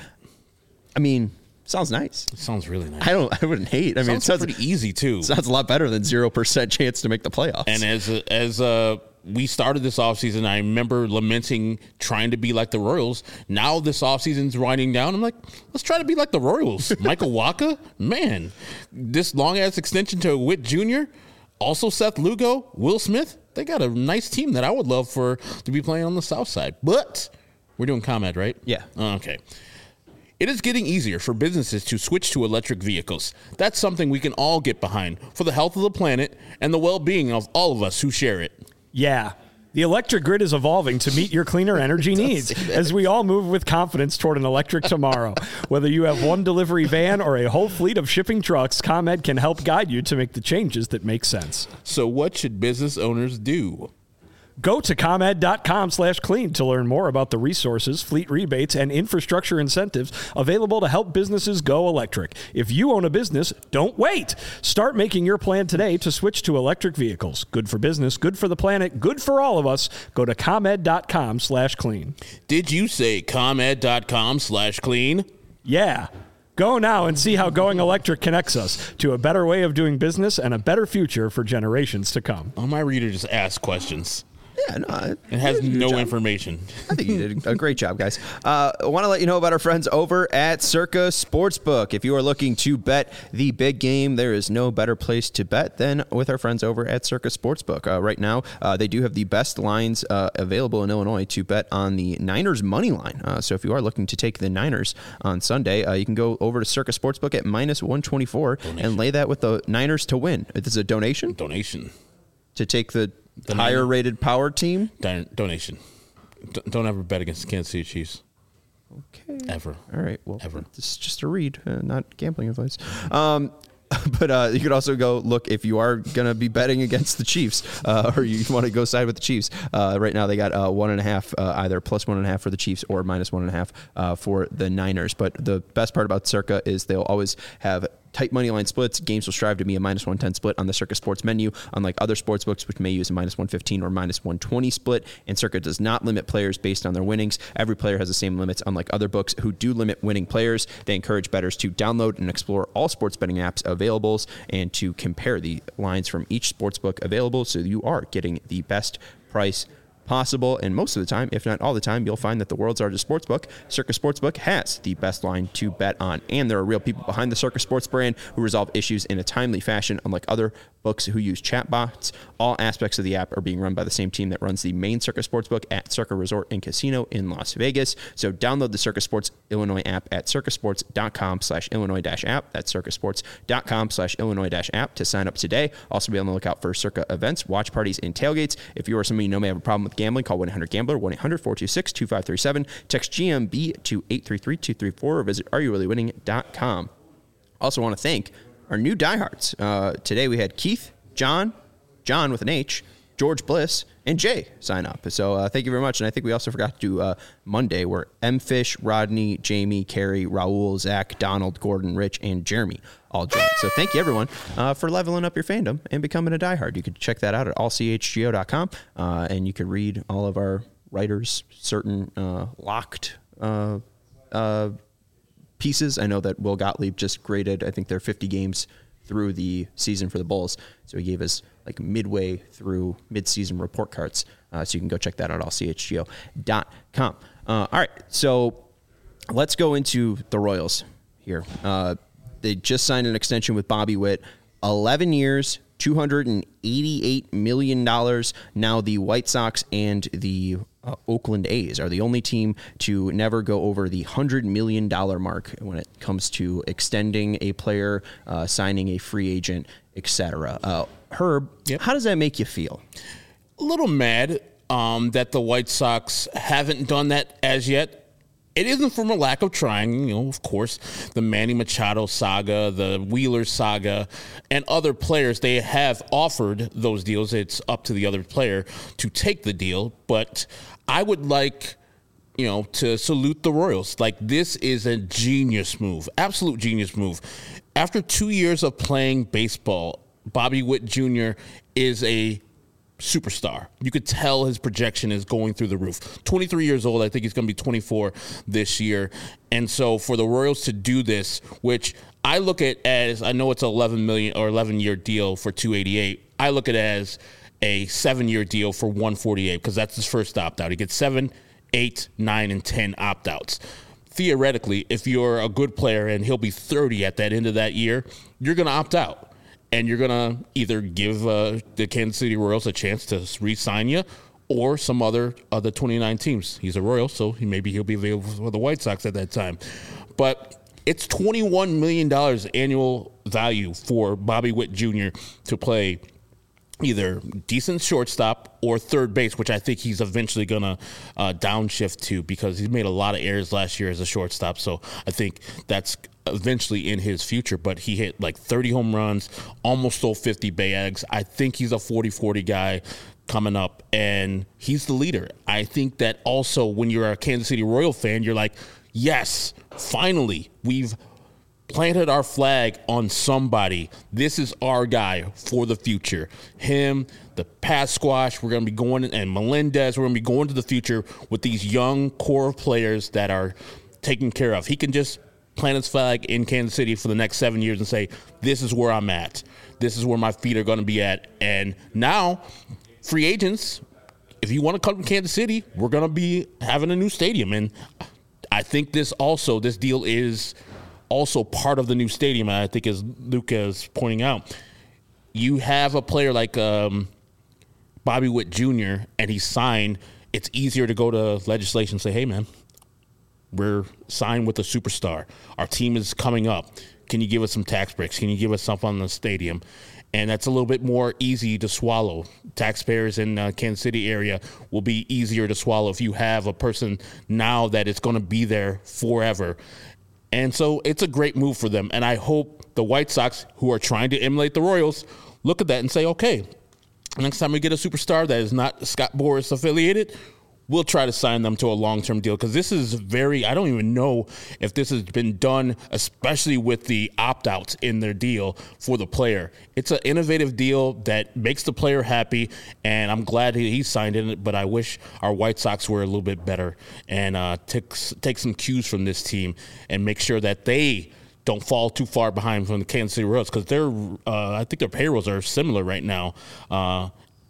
I mean... Sounds nice. It sounds really nice. I don't. I wouldn't hate. I sounds mean, it sounds pretty easy too. Sounds a lot better than zero percent chance to make the playoffs. And as as uh, we started this offseason, I remember lamenting trying to be like the Royals. Now this offseason's winding down. I'm like, let's try to be like the Royals. Michael Wacha, man, this long ass extension to Witt Junior Also Seth Lugo, Will Smith. They got a nice team that I would love for to be playing on the South Side. But we're doing ComEd, right? Yeah. Okay. It is getting easier for businesses to switch to electric vehicles. That's something we can all get behind for the health of the planet and the well-being of all of us who share it. Yeah. The electric grid is evolving to meet your cleaner energy needs as we all move with confidence toward an electric tomorrow. Whether you have one delivery van or a whole fleet of shipping trucks, ComEd can help guide you to make the changes that make sense. So what should business owners do? Go to ComEd.com slash clean to learn more about the resources, fleet rebates, and infrastructure incentives available to help businesses go electric. If you own a business, don't wait. Start making your plan today to switch to electric vehicles. Good for business, good for the planet, good for all of us. Go to ComEd.com slash clean. Did you say ComEd.com slash clean? Yeah. Go now and see how going electric connects us to a better way of doing business and a better future for generations to come. Oh, my reader just asked questions. Yeah, no, it has no information. I think you did a great job, guys. Uh, I want to let you know about our friends over at Circa Sportsbook. If you are looking to bet the big game, there is no better place to bet than with our friends over at Circa Sportsbook. Uh, right now, uh, they do have the best lines uh, available in Illinois to bet on the Niners money line. Uh, so if you are looking to take the Niners on Sunday, uh, you can go over to Circa Sportsbook at minus one twenty-four donation. And lay that with the Niners to win. This is a donation? Donation. To take the... The higher rated power team? Don- donation. D- don't ever bet against the Kansas City Chiefs. Okay. Ever. All right. Well, ever. This is just a read, uh, not gambling advice. Um, but uh, you could also go look if you are going to be betting against the Chiefs uh, or you want to go side with the Chiefs. Uh, right now, they got uh, one and a half, uh, either plus one and a half for the Chiefs or minus one and a half uh, for the Niners. But the best part about Circa is they'll always have tight money line splits. Games will strive to be a minus one ten split on the Circa Sports menu, unlike other sports books, which may use a minus one fifteen or minus one twenty split. And Circa does not limit players based on their winnings. Every player has the same limits, unlike other books who do limit winning players. They encourage bettors to download and explore all sports betting apps available and to compare the lines from each sports book available so you are getting the best price possible. And most of the time, if not all the time, you'll find that the world's largest sportsbook, Circa Sportsbook, has the best line to bet on. And there are real people behind the Circa Sports brand who resolve issues in a timely fashion, unlike other books who use chatbots. All aspects of the app are being run by the same team that runs the main Circa Sportsbook at Circa Resort and Casino in Las Vegas. So download the Circa Sports Illinois app at circasports.com slash Illinois dash app. That's circasports.com slash Illinois dash app to sign up today. Also be on the lookout for Circa events, watch parties, and tailgates. If you or somebody you know may have a problem with gambling, call one eight hundred gambler, one eight hundred four two six two five three seven. Text G M B to eight three three two three four or visit are you really winning dot com. Also want to thank our new diehards. Uh, today we had Keith, John, John with an H, George Bliss, and Jay sign up. So uh, thank you very much. And I think we also forgot to do uh, Monday, where M. Fish, Rodney, Jamie, Carrie, Raul, Zach, Donald, Gordon, Rich, and Jeremy all joined. So thank you, everyone, uh, for leveling up your fandom and becoming a diehard. You could check that out at all c h g o dot com, uh, and you could read all of our writers' certain uh, locked uh, uh, pieces. I know that Will Gottlieb just graded, I think they're fifty games through the season for the Bulls. So he gave us like midway through mid-season report cards. Uh, so you can go check that out at all c h g o dot com. Uh, all right. So let's go into the Royals here. Uh, they just signed an extension with Bobby Witt, eleven years, two hundred eighty-eight million dollars. Now the White Sox and the uh, Oakland A's are the only team to never go over the one hundred million dollars mark when it comes to extending a player, uh, signing a free agent, et cetera. Uh, Herb, yep. How does that make you feel? A little mad um, that the White Sox haven't done that as yet. It isn't from a lack of trying, you know, of course, the Manny Machado saga, the Wheeler saga, and other players, they have offered those deals. It's up to the other player to take the deal. But I would like, you know, to salute the Royals. Like, this is a genius move, absolute genius move. After two years of playing baseball, Bobby Witt Junior is a superstar. You could tell his projection is going through the roof. twenty-three years old. I think he's going to be twenty-four this year. And so for the Royals to do this, which I look at as, I know it's an eleven million or eleven year deal for two eighty-eight. I look at it as a seven year deal for one forty-eight because that's his first opt out. He gets seven, eight, nine, and ten opt outs. Theoretically, if you're a good player and he'll be thirty at that end of that year, you're going to opt out. And you're going to either give uh, the Kansas City Royals a chance to re-sign you or some other of the twenty-nine teams. He's a Royal, so he, maybe he'll be available for the White Sox at that time. But it's twenty-one million dollars annual value for Bobby Witt Junior to play either decent shortstop or third base, which I think he's eventually going to uh, downshift to because he's made a lot of errors last year as a shortstop. So I think that's eventually in his future, but he hit like thirty home runs, almost stole fifty bags. I think he's a forty forty guy coming up, and he's the leader. I think that also when you're a Kansas City Royal fan, you're like, yes, finally, we've planted our flag on somebody. This is our guy for the future. Him, the Pat Squash, we're going to be going, and Melendez, we're going to be going to the future with these young core players that are taken care of. He can just plant his flag in Kansas City for the next seven years and say, this is where I'm at. This is where my feet are going to be at. And now, free agents, if you want to come to Kansas City, we're going to be having a new stadium. And I think this also, this deal is also part of the new stadium. And I think as Luca is pointing out, you have a player like um, Bobby Witt Junior and he's signed, it's easier to go to legislation and say, hey, man, we're signed with a superstar. Our team is coming up. Can you give us some tax breaks? Can you give us something on the stadium? And that's a little bit more easy to swallow. Taxpayers in uh, Kansas City area will be easier to swallow if you have a person now that is going to be there forever. And so it's a great move for them. And I hope the White Sox, who are trying to emulate the Royals, look at that and say, okay, next time we get a superstar that is not Scott Boras affiliated, we'll try to sign them to a long-term deal because this is very, I don't even know if this has been done, especially with the opt-outs in their deal for the player. It's an innovative deal that makes the player happy, and I'm glad he, he signed it, but I wish our White Sox were a little bit better and uh, take, take some cues from this team and make sure that they don't fall too far behind from the Kansas City Royals because they're, uh, I think their payrolls are similar right now. Uh,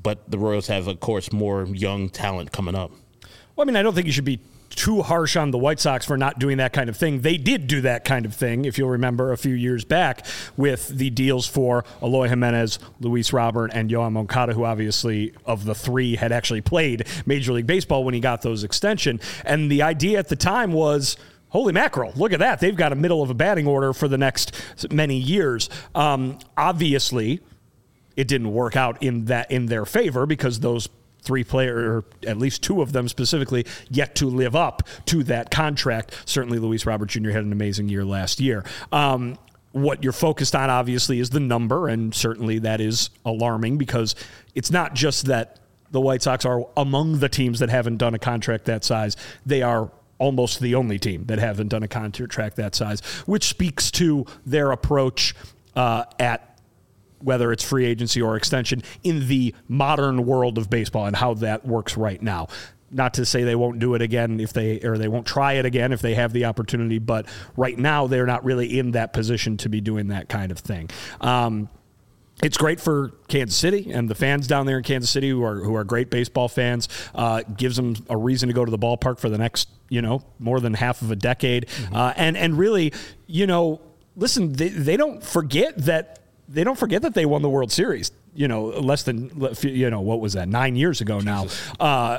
but the Royals have, of course, more young talent coming up. Well, I mean, I don't think you should be too harsh on the White Sox for not doing that kind of thing. They did do that kind of thing, if you'll remember, a few years back with the deals for Eloy Jimenez, Luis Robert, and Yoan Moncada, who obviously, of the three, had actually played Major League Baseball when he got those extension. And the idea at the time was, holy mackerel, look at that. They've got a middle of a batting order for the next many years. Um, obviously, it didn't work out in that in their favor because those three players, or at least two of them specifically, yet to live up to that contract. Certainly Luis Robert Junior had an amazing year last year. Um, what you're focused on, obviously, is the number, and certainly that is alarming because it's not just that the White Sox are among the teams that haven't done a contract that size. They are almost the only team that haven't done a contract that size, which speaks to their approach uh, at whether it's free agency or extension in the modern world of baseball and how that works right now. Not to say they won't do it again if they, or they won't try it again if they have the opportunity, but right now they're not really in that position to be doing that kind of thing. Um, It's great for Kansas City and the fans down there in Kansas City who are who are great baseball fans. Uh, gives them a reason to go to the ballpark for the next, you know, more than half of a decade. Mm-hmm. Uh, and and really, you know, listen, they, they don't forget that they don't forget that they won the World Series. You know, less than, you know, what was that, nine years ago now. Uh,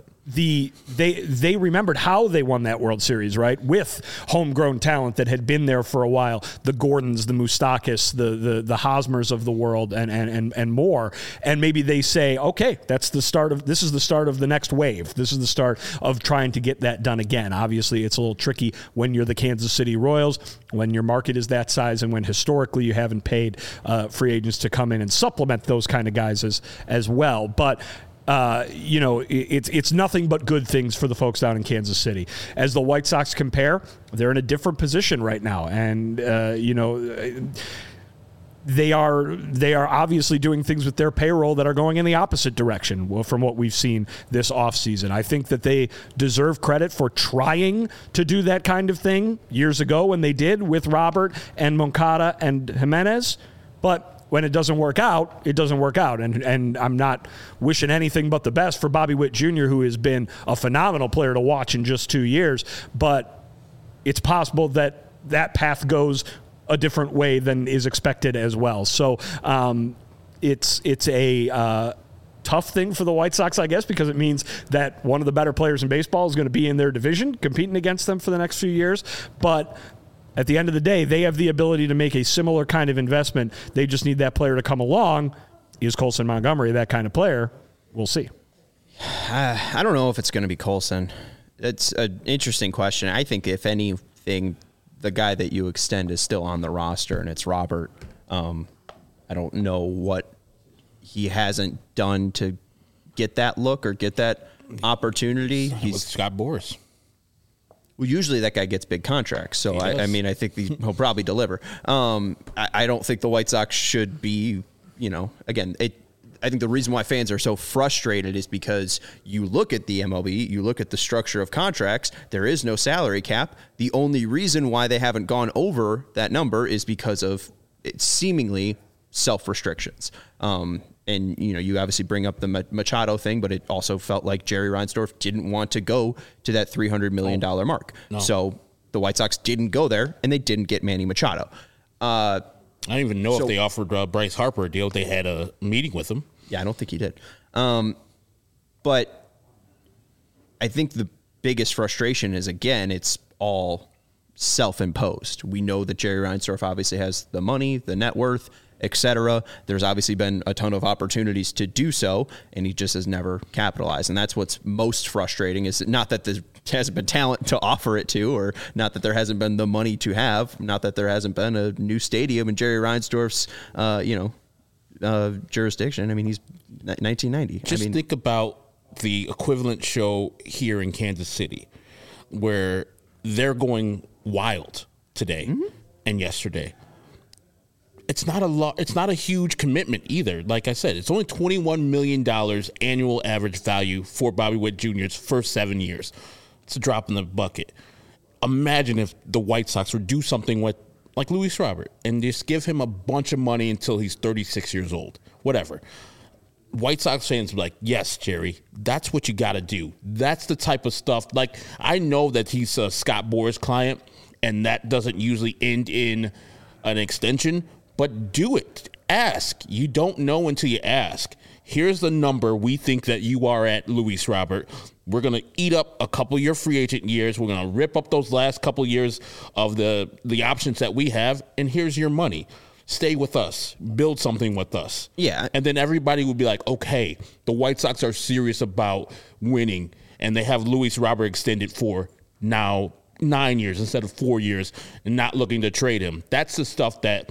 the they they remembered how they won that World Series, right? With homegrown talent that had been there for a while, the Gordons, the Moustakas, the the the Hosmers of the world, and and and and more. And maybe they say, okay, that's the start of this is the start of the next wave. This is the start of trying to get that done again. Obviously, it's a little tricky when you're the Kansas City Royals, when your market is that size, and when historically you haven't paid uh, free agents to come in and supplement those kind of guys as as well. But uh, you know, it, it's it's nothing but good things for the folks down in Kansas City. As the White Sox compare, they're in a different position right now, and uh, you know, they are they are obviously doing things with their payroll that are going in the opposite direction. Well, from what we've seen this offseason, I think that they deserve credit for trying to do that kind of thing years ago when they did with Robert and Moncada and Jimenez, but when it doesn't work out, it doesn't work out. And and I'm not wishing anything but the best for Bobby Witt Junior, who has been a phenomenal player to watch in just two years. But it's possible that that path goes a different way than is expected as well. So um, it's it's a uh, tough thing for the White Sox, I guess, because it means that one of the better players in baseball is going to be in their division, competing against them for the next few years. But at the end of the day, they have the ability to make a similar kind of investment. They just need that player to come along. Is Colson Montgomery that kind of player? We'll see. Uh, I don't know if it's going to be Colson. It's an interesting question. I think, if anything, the guy that you extend is still on the roster, and it's Robert. Um, I don't know what he hasn't done to get that look or get that opportunity. He's with Scott Boras. Well, usually that guy gets big contracts, so I, I mean, I think the, he'll probably deliver. Um, I, I don't think the White Sox should be, you know, again, it. I think the reason why fans are so frustrated is because you look at the M L B, you look at the structure of contracts, there is no salary cap. The only reason why they haven't gone over that number is because of it seemingly self-restrictions. Um, and, you know, you obviously bring up the Machado thing, but it also felt like Jerry Reinsdorf didn't want to go to that three hundred million dollars mark. No. So the White Sox didn't go there, and they didn't get Manny Machado. Uh, I don't even know so, if they offered uh, Bryce Harper a deal. They had a meeting with him. Yeah, I don't think he did. Um, but I think the biggest frustration is, again, it's all self-imposed. We know that Jerry Reinsdorf obviously has the money, the net worth, et cetera. There's obviously been a ton of opportunities to do so, and he just has never capitalized. And that's what's most frustrating, is not that there hasn't been talent to offer it to, or not that there hasn't been the money to have, not that there hasn't been a new stadium in Jerry Reinsdorf's, uh, you know, uh, jurisdiction. I mean, he's nineteen ninety. Just I mean, think about the equivalent show here in Kansas City, where they're going wild today mm-hmm. and yesterday. It's not a lot. It's not a huge commitment either. Like I said, it's only twenty-one million dollars annual average value for Bobby Witt Junior's first seven years. It's a drop in the bucket. Imagine if the White Sox would do something with, like Luis Robert, and just give him a bunch of money until he's thirty-six years old. Whatever. White Sox fans be like, yes, Jerry, that's what you got to do. That's the type of stuff. Like, I know that he's a Scott Boras client, and that doesn't usually end in an extension, but do it. Ask. You don't know until you ask. Here's the number we think that you are at, Luis Robert. We're going to eat up a couple of your free agent years. We're going to rip up those last couple years of the, the options that we have, and here's your money. Stay with us. Build something with us. Yeah. And then everybody would be like, okay, the White Sox are serious about winning, and they have Luis Robert extended for now nine years instead of four years and not looking to trade him. That's the stuff that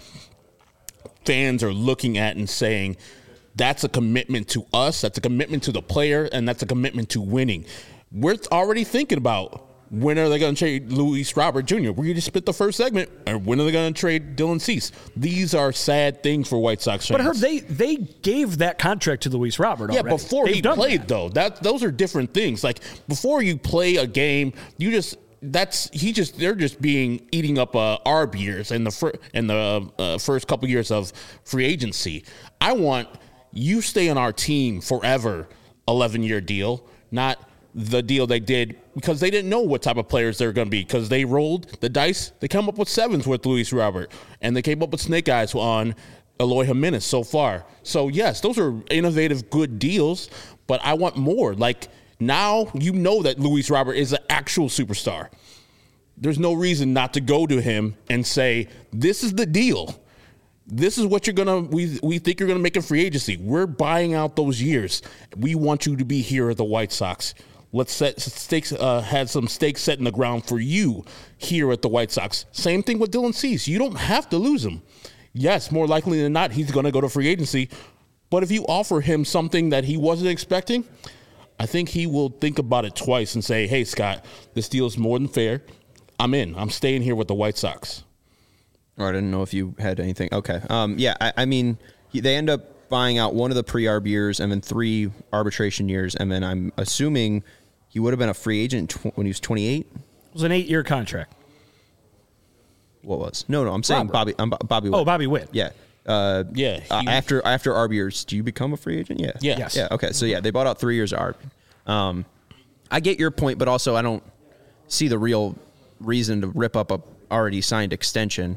fans are looking at and saying, that's a commitment to us, that's a commitment to the player, and that's a commitment to winning. We're already thinking about when are they going to trade Luis Robert Junior We just split the first segment. Or when are they going to trade Dylan Cease? These are sad things for White Sox fans. But Herb, they they gave that contract to Luis Robert yeah, already. before They've he done played, that. though. That those are different things. Like, before you play a game, you just that's he just they're just being eating up uh, arb years in the fir- in the uh, first couple years of free agency. I want you stay on our team forever, eleven year deal, not the deal they did because they didn't know what type of players they were going to be because they rolled the dice. They come up with sevens with Luis Robert, and they came up with snake eyes on Eloy Jimenez so far. So, yes, those are innovative, good deals, but I want more. Like, now you know that Luis Robert is an actual superstar. There's no reason not to go to him and say, this is the deal. This is what you're going to, we we think you're going to make in free agency. We're buying out those years. We want you to be here at the White Sox. Let's set stakes, uh, had some stakes set in the ground for you here at the White Sox. Same thing with Dylan Cease. You don't have to lose him. Yes, more likely than not, he's going to go to free agency. But if you offer him something that he wasn't expecting, I think he will think about it twice and say, hey, Scott, this deal is more than fair. I'm in. I'm staying here with the White Sox. Or I didn't know if you had anything. Okay. Um, yeah, I, I mean, they end up buying out one of the pre-arb years and then three arbitration years. And then I'm assuming he would have been a free agent tw- when he was twenty-eight. It was an eight-year contract. What was? No, no, I'm saying Robert. Bobby. I'm Bo- Bobby Witt. Oh, Bobby Witt. Yeah. Uh, Yeah, uh, he- after after arb years, do you become a free agent? Yeah. Yeah. Yes. Yeah. Okay. So yeah, they bought out three years of arb. Um, I get your point, but also I don't see the real reason to rip up a already signed extension.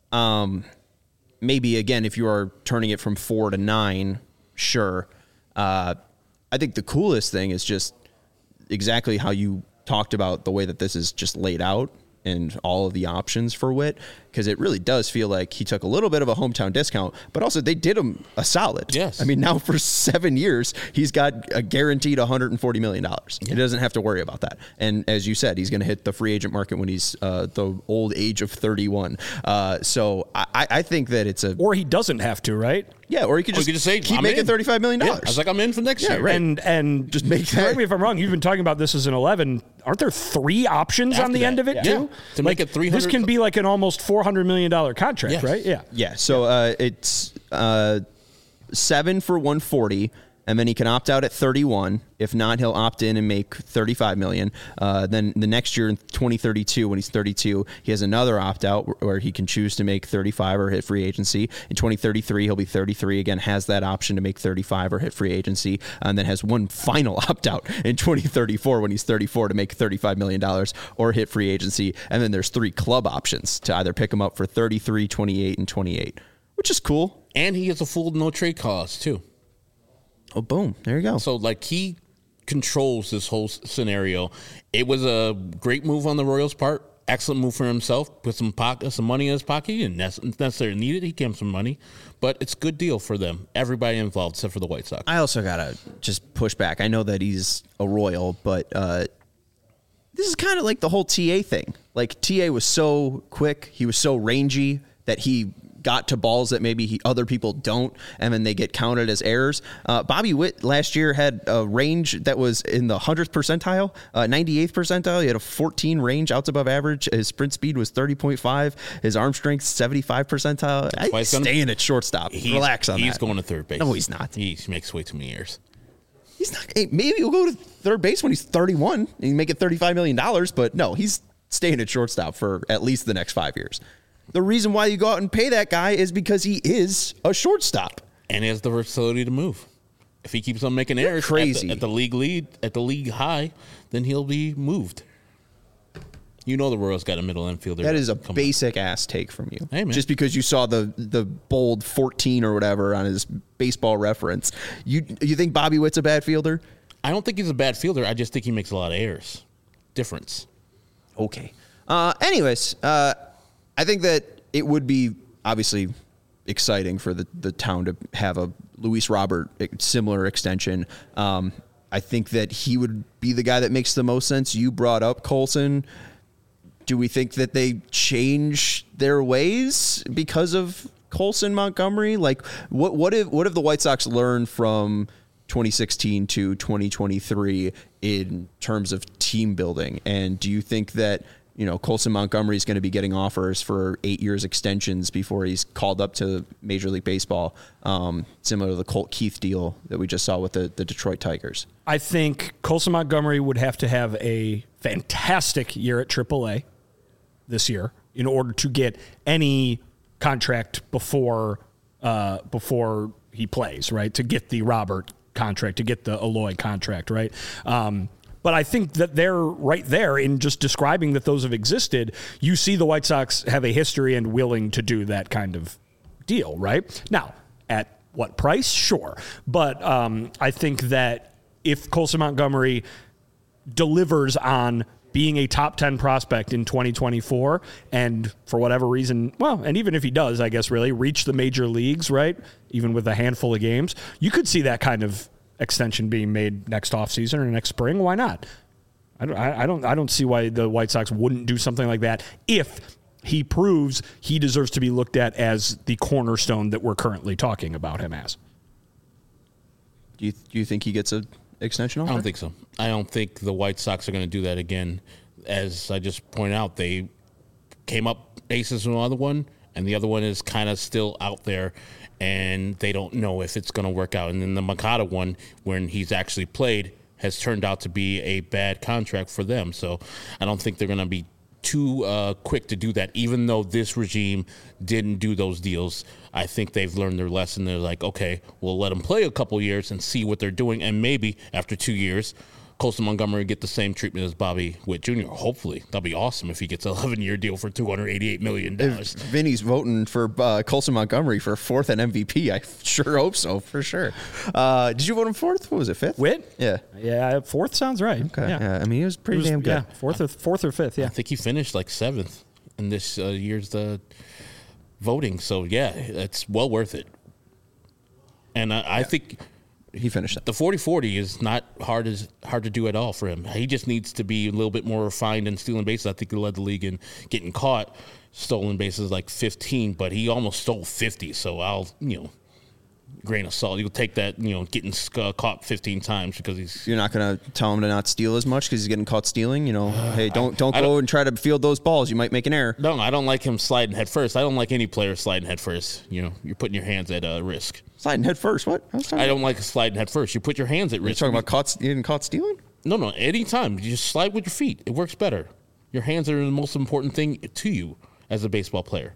Um, maybe again, if you are turning it from four to nine, sure. Uh, I think the coolest thing is just exactly how you talked about the way that this is just laid out and all of the options for Witt, because it really does feel like he took a little bit of a hometown discount, but also they did him a solid. Yes. I mean, now for seven years, he's got a guaranteed one hundred forty million dollars. Yeah. He doesn't have to worry about that. And as you said, he's going to hit the free agent market when he's uh, the old age of thirty-one. Uh, so I, I think that it's a... Or he doesn't have to, right? Yeah, or he could Or you just, could just say, keep I'm making in. thirty-five million dollars. Yeah, I was like, I'm in for next Yeah, year. right. And and Just make correct that- me if I'm wrong. You've been talking about this as an eleven. Aren't there three options After on the that, end of it yeah. too? Yeah. To make it three hundred This can be like an almost four hundred million dollar contract, Yes. right? Yeah. Yeah, so uh, it's uh, seven for one forty, and then he can opt out at thirty-one. If not, he'll opt in and make thirty-five million. Uh, then the next year in twenty thirty-two, when he's thirty-two, he has another opt out where, where he can choose to make thirty-five or hit free agency. In twenty thirty-three, he'll be thirty-three again, has that option to make thirty-five or hit free agency, and then has one final opt out in twenty thirty-four when he's thirty-four to make thirty-five million dollars or hit free agency. And then there's three club options to either pick him up for thirty-three, twenty-eight, and twenty-eight, which is cool. And he has a full no trade clause, too. Oh, boom. There you go. So, like, he controls this whole s- scenario. It was a great move on the Royals' part. Excellent move for himself. Put some pocket, some money in his pocket. He didn't nec- necessarily need it. He gave him some money. But it's a good deal for them. Everybody involved, except for the White Sox. I also got to just push back. I know that he's a Royal, but uh, this is kind of like the whole T A thing. Like, T A was so quick. He was so rangy that he got to balls that maybe he, other people don't, and then they get counted as errors. Uh, Bobby Witt last year had a range that was in the hundredth percentile, uh, ninety-eighth percentile. He had a fourteen range outs above average. His sprint speed was thirty point five. His arm strength, seventy-five percentile. why I, he's gonna- staying at shortstop. He's- Relax on He's that. going to third base. No, he's not. He makes way too many errors. He's not. Hey, maybe he'll go to third base when he's thirty-one and he make it thirty-five million dollars, but no, he's staying at shortstop for at least the next five years. The reason why you go out and pay that guy is because he is a shortstop. And he has the versatility to move. If he keeps on making errors crazy. At, the, at the league lead, at the league high, then he'll be moved. You know the Royals got a middle infielder. That is a basic up. ass take from you. Hey, man. Just because you saw the the bold fourteen or whatever on his Baseball Reference, you you think Bobby Witt's a bad fielder? I don't think he's a bad fielder. I just think he makes a lot of errors. Difference. Okay. Uh, anyways, uh, I think that it would be obviously exciting for the, the town to have a Luis Robert similar extension. Um, I think that he would be the guy that makes the most sense. You brought up Colson. Do we think that they change their ways because of Colson Montgomery? Like, what what if what have the White Sox learned from twenty sixteen to twenty twenty-three in terms of team building? And do you think that, you know, Colson Montgomery is going to be getting offers for eight years extensions before he's called up to Major League Baseball, um, similar to the Colt Keith deal that we just saw with the, the Detroit Tigers? I think Colson Montgomery would have to have a fantastic year at triple A this year in order to get any contract before uh, before he plays, right? To get the Robert contract, to get the Eloy contract, right? Um, but I think that they're right there in just describing that those have existed. You see the White Sox have a history and willing to do that kind of deal, right? Now, at what price? Sure. But um, I think that if Colson Montgomery delivers on being a top ten prospect in twenty twenty-four, and for whatever reason, well, and even if he does, I guess really reach the major leagues, right? Even with a handful of games, you could see that kind of extension being made next offseason or next spring. Why not? I don't, I don't, I don't see why the White Sox wouldn't do something like that if he proves he deserves to be looked at as the cornerstone that we're currently talking about him as. Do you do you think he gets a extension offer? I don't think so. I don't think the White Sox are going to do that again. As I just pointed out, they came up aces with another one, and the other one is kind of still out there, and they don't know if it's going to work out. And then the Moncada one, when he's actually played, has turned out to be a bad contract for them. So I don't think they're going to be too uh, quick to do that, even though this regime didn't do those deals. I think they've learned their lesson. They're like, okay, we'll let them play a couple years and see what they're doing, and maybe after two years, Colson Montgomery get the same treatment as Bobby Witt Junior Hopefully. That'll be awesome if he gets an eleven-year deal for two hundred eighty-eight million dollars. If Vinny's voting for uh, Colson Montgomery for fourth and M V P, I sure hope so, for sure. Uh, did you vote him fourth? What was it, fifth? Witt? Yeah. Yeah, fourth sounds right. Okay. Yeah. Yeah, I mean, he was pretty It was- damn good. Yeah, fourth or fourth or fifth. Yeah. I think he finished like seventh in this uh, year's the voting. So, yeah, it's well worth it. And I, I think He finished that. the forty forty is not hard as hard to do at all for him. He just needs to be a little bit more refined in stealing bases. I think he led the league in getting caught stolen bases like fifteen, but he almost stole fifty. So I'll, you know, grain of salt. You'll take that, you know, getting uh, caught fifteen times because he's. You're not going to tell him to not steal as much because he's getting caught stealing? You know, hey, don't don't I go don't- and try to field those balls. You might make an error. No, I don't like him sliding head first. I don't like any player sliding head first. You know, you're putting your hands at uh, risk. Sliding head first. What? I, was talking I about- don't like sliding head first. You put your hands at You're risk. talking about caught, you getting caught stealing? No, no. Anytime you just slide with your feet, it works better. Your hands are the most important thing to you as a baseball player.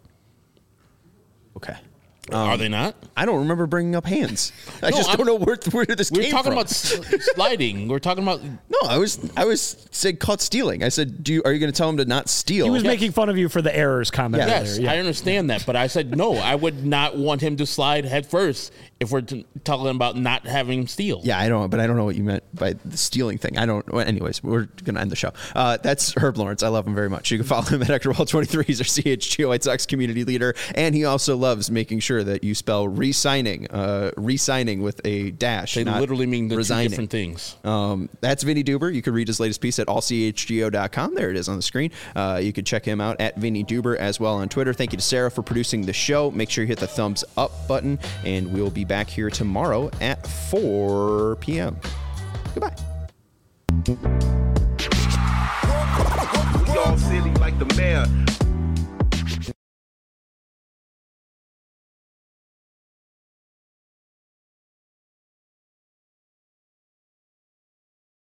Okay. Are they not? I don't remember bringing up hands. I No, just I'm- don't know where, where this We're came talking from. about s- sliding. We're talking about. No, I was I was saying caught stealing. I said, "Do you are you going to tell him to not steal?" He was Yes. making fun of you for the errors comment Yeah. Yes, earlier. I understand that, but I said no. I would not want him to slide head first if we're t- talking about not having him steal. Yeah, I don't, but I don't know what you meant by the stealing thing. I don't. Well, anyways, we're gonna end the show. Uh, that's Herb Lawrence. I love him very much. You can follow him at Hector Wall twenty-three. He's our C H G O White Sox community leader, and he also loves making sure that you spell re-signing, uh, re-signing with a dash. They not literally mean the two resigning. different things. Um, that's Vinny Duber. You can read his latest piece at all c h g o dot com. There it is on the screen. Uh, you can check him out at Vinny Duber as well on Twitter. Thank you to Sarah for producing the show. Make sure you hit the thumbs up button, and we'll be back here tomorrow at four p.m. Goodbye. We all silly like the mayor.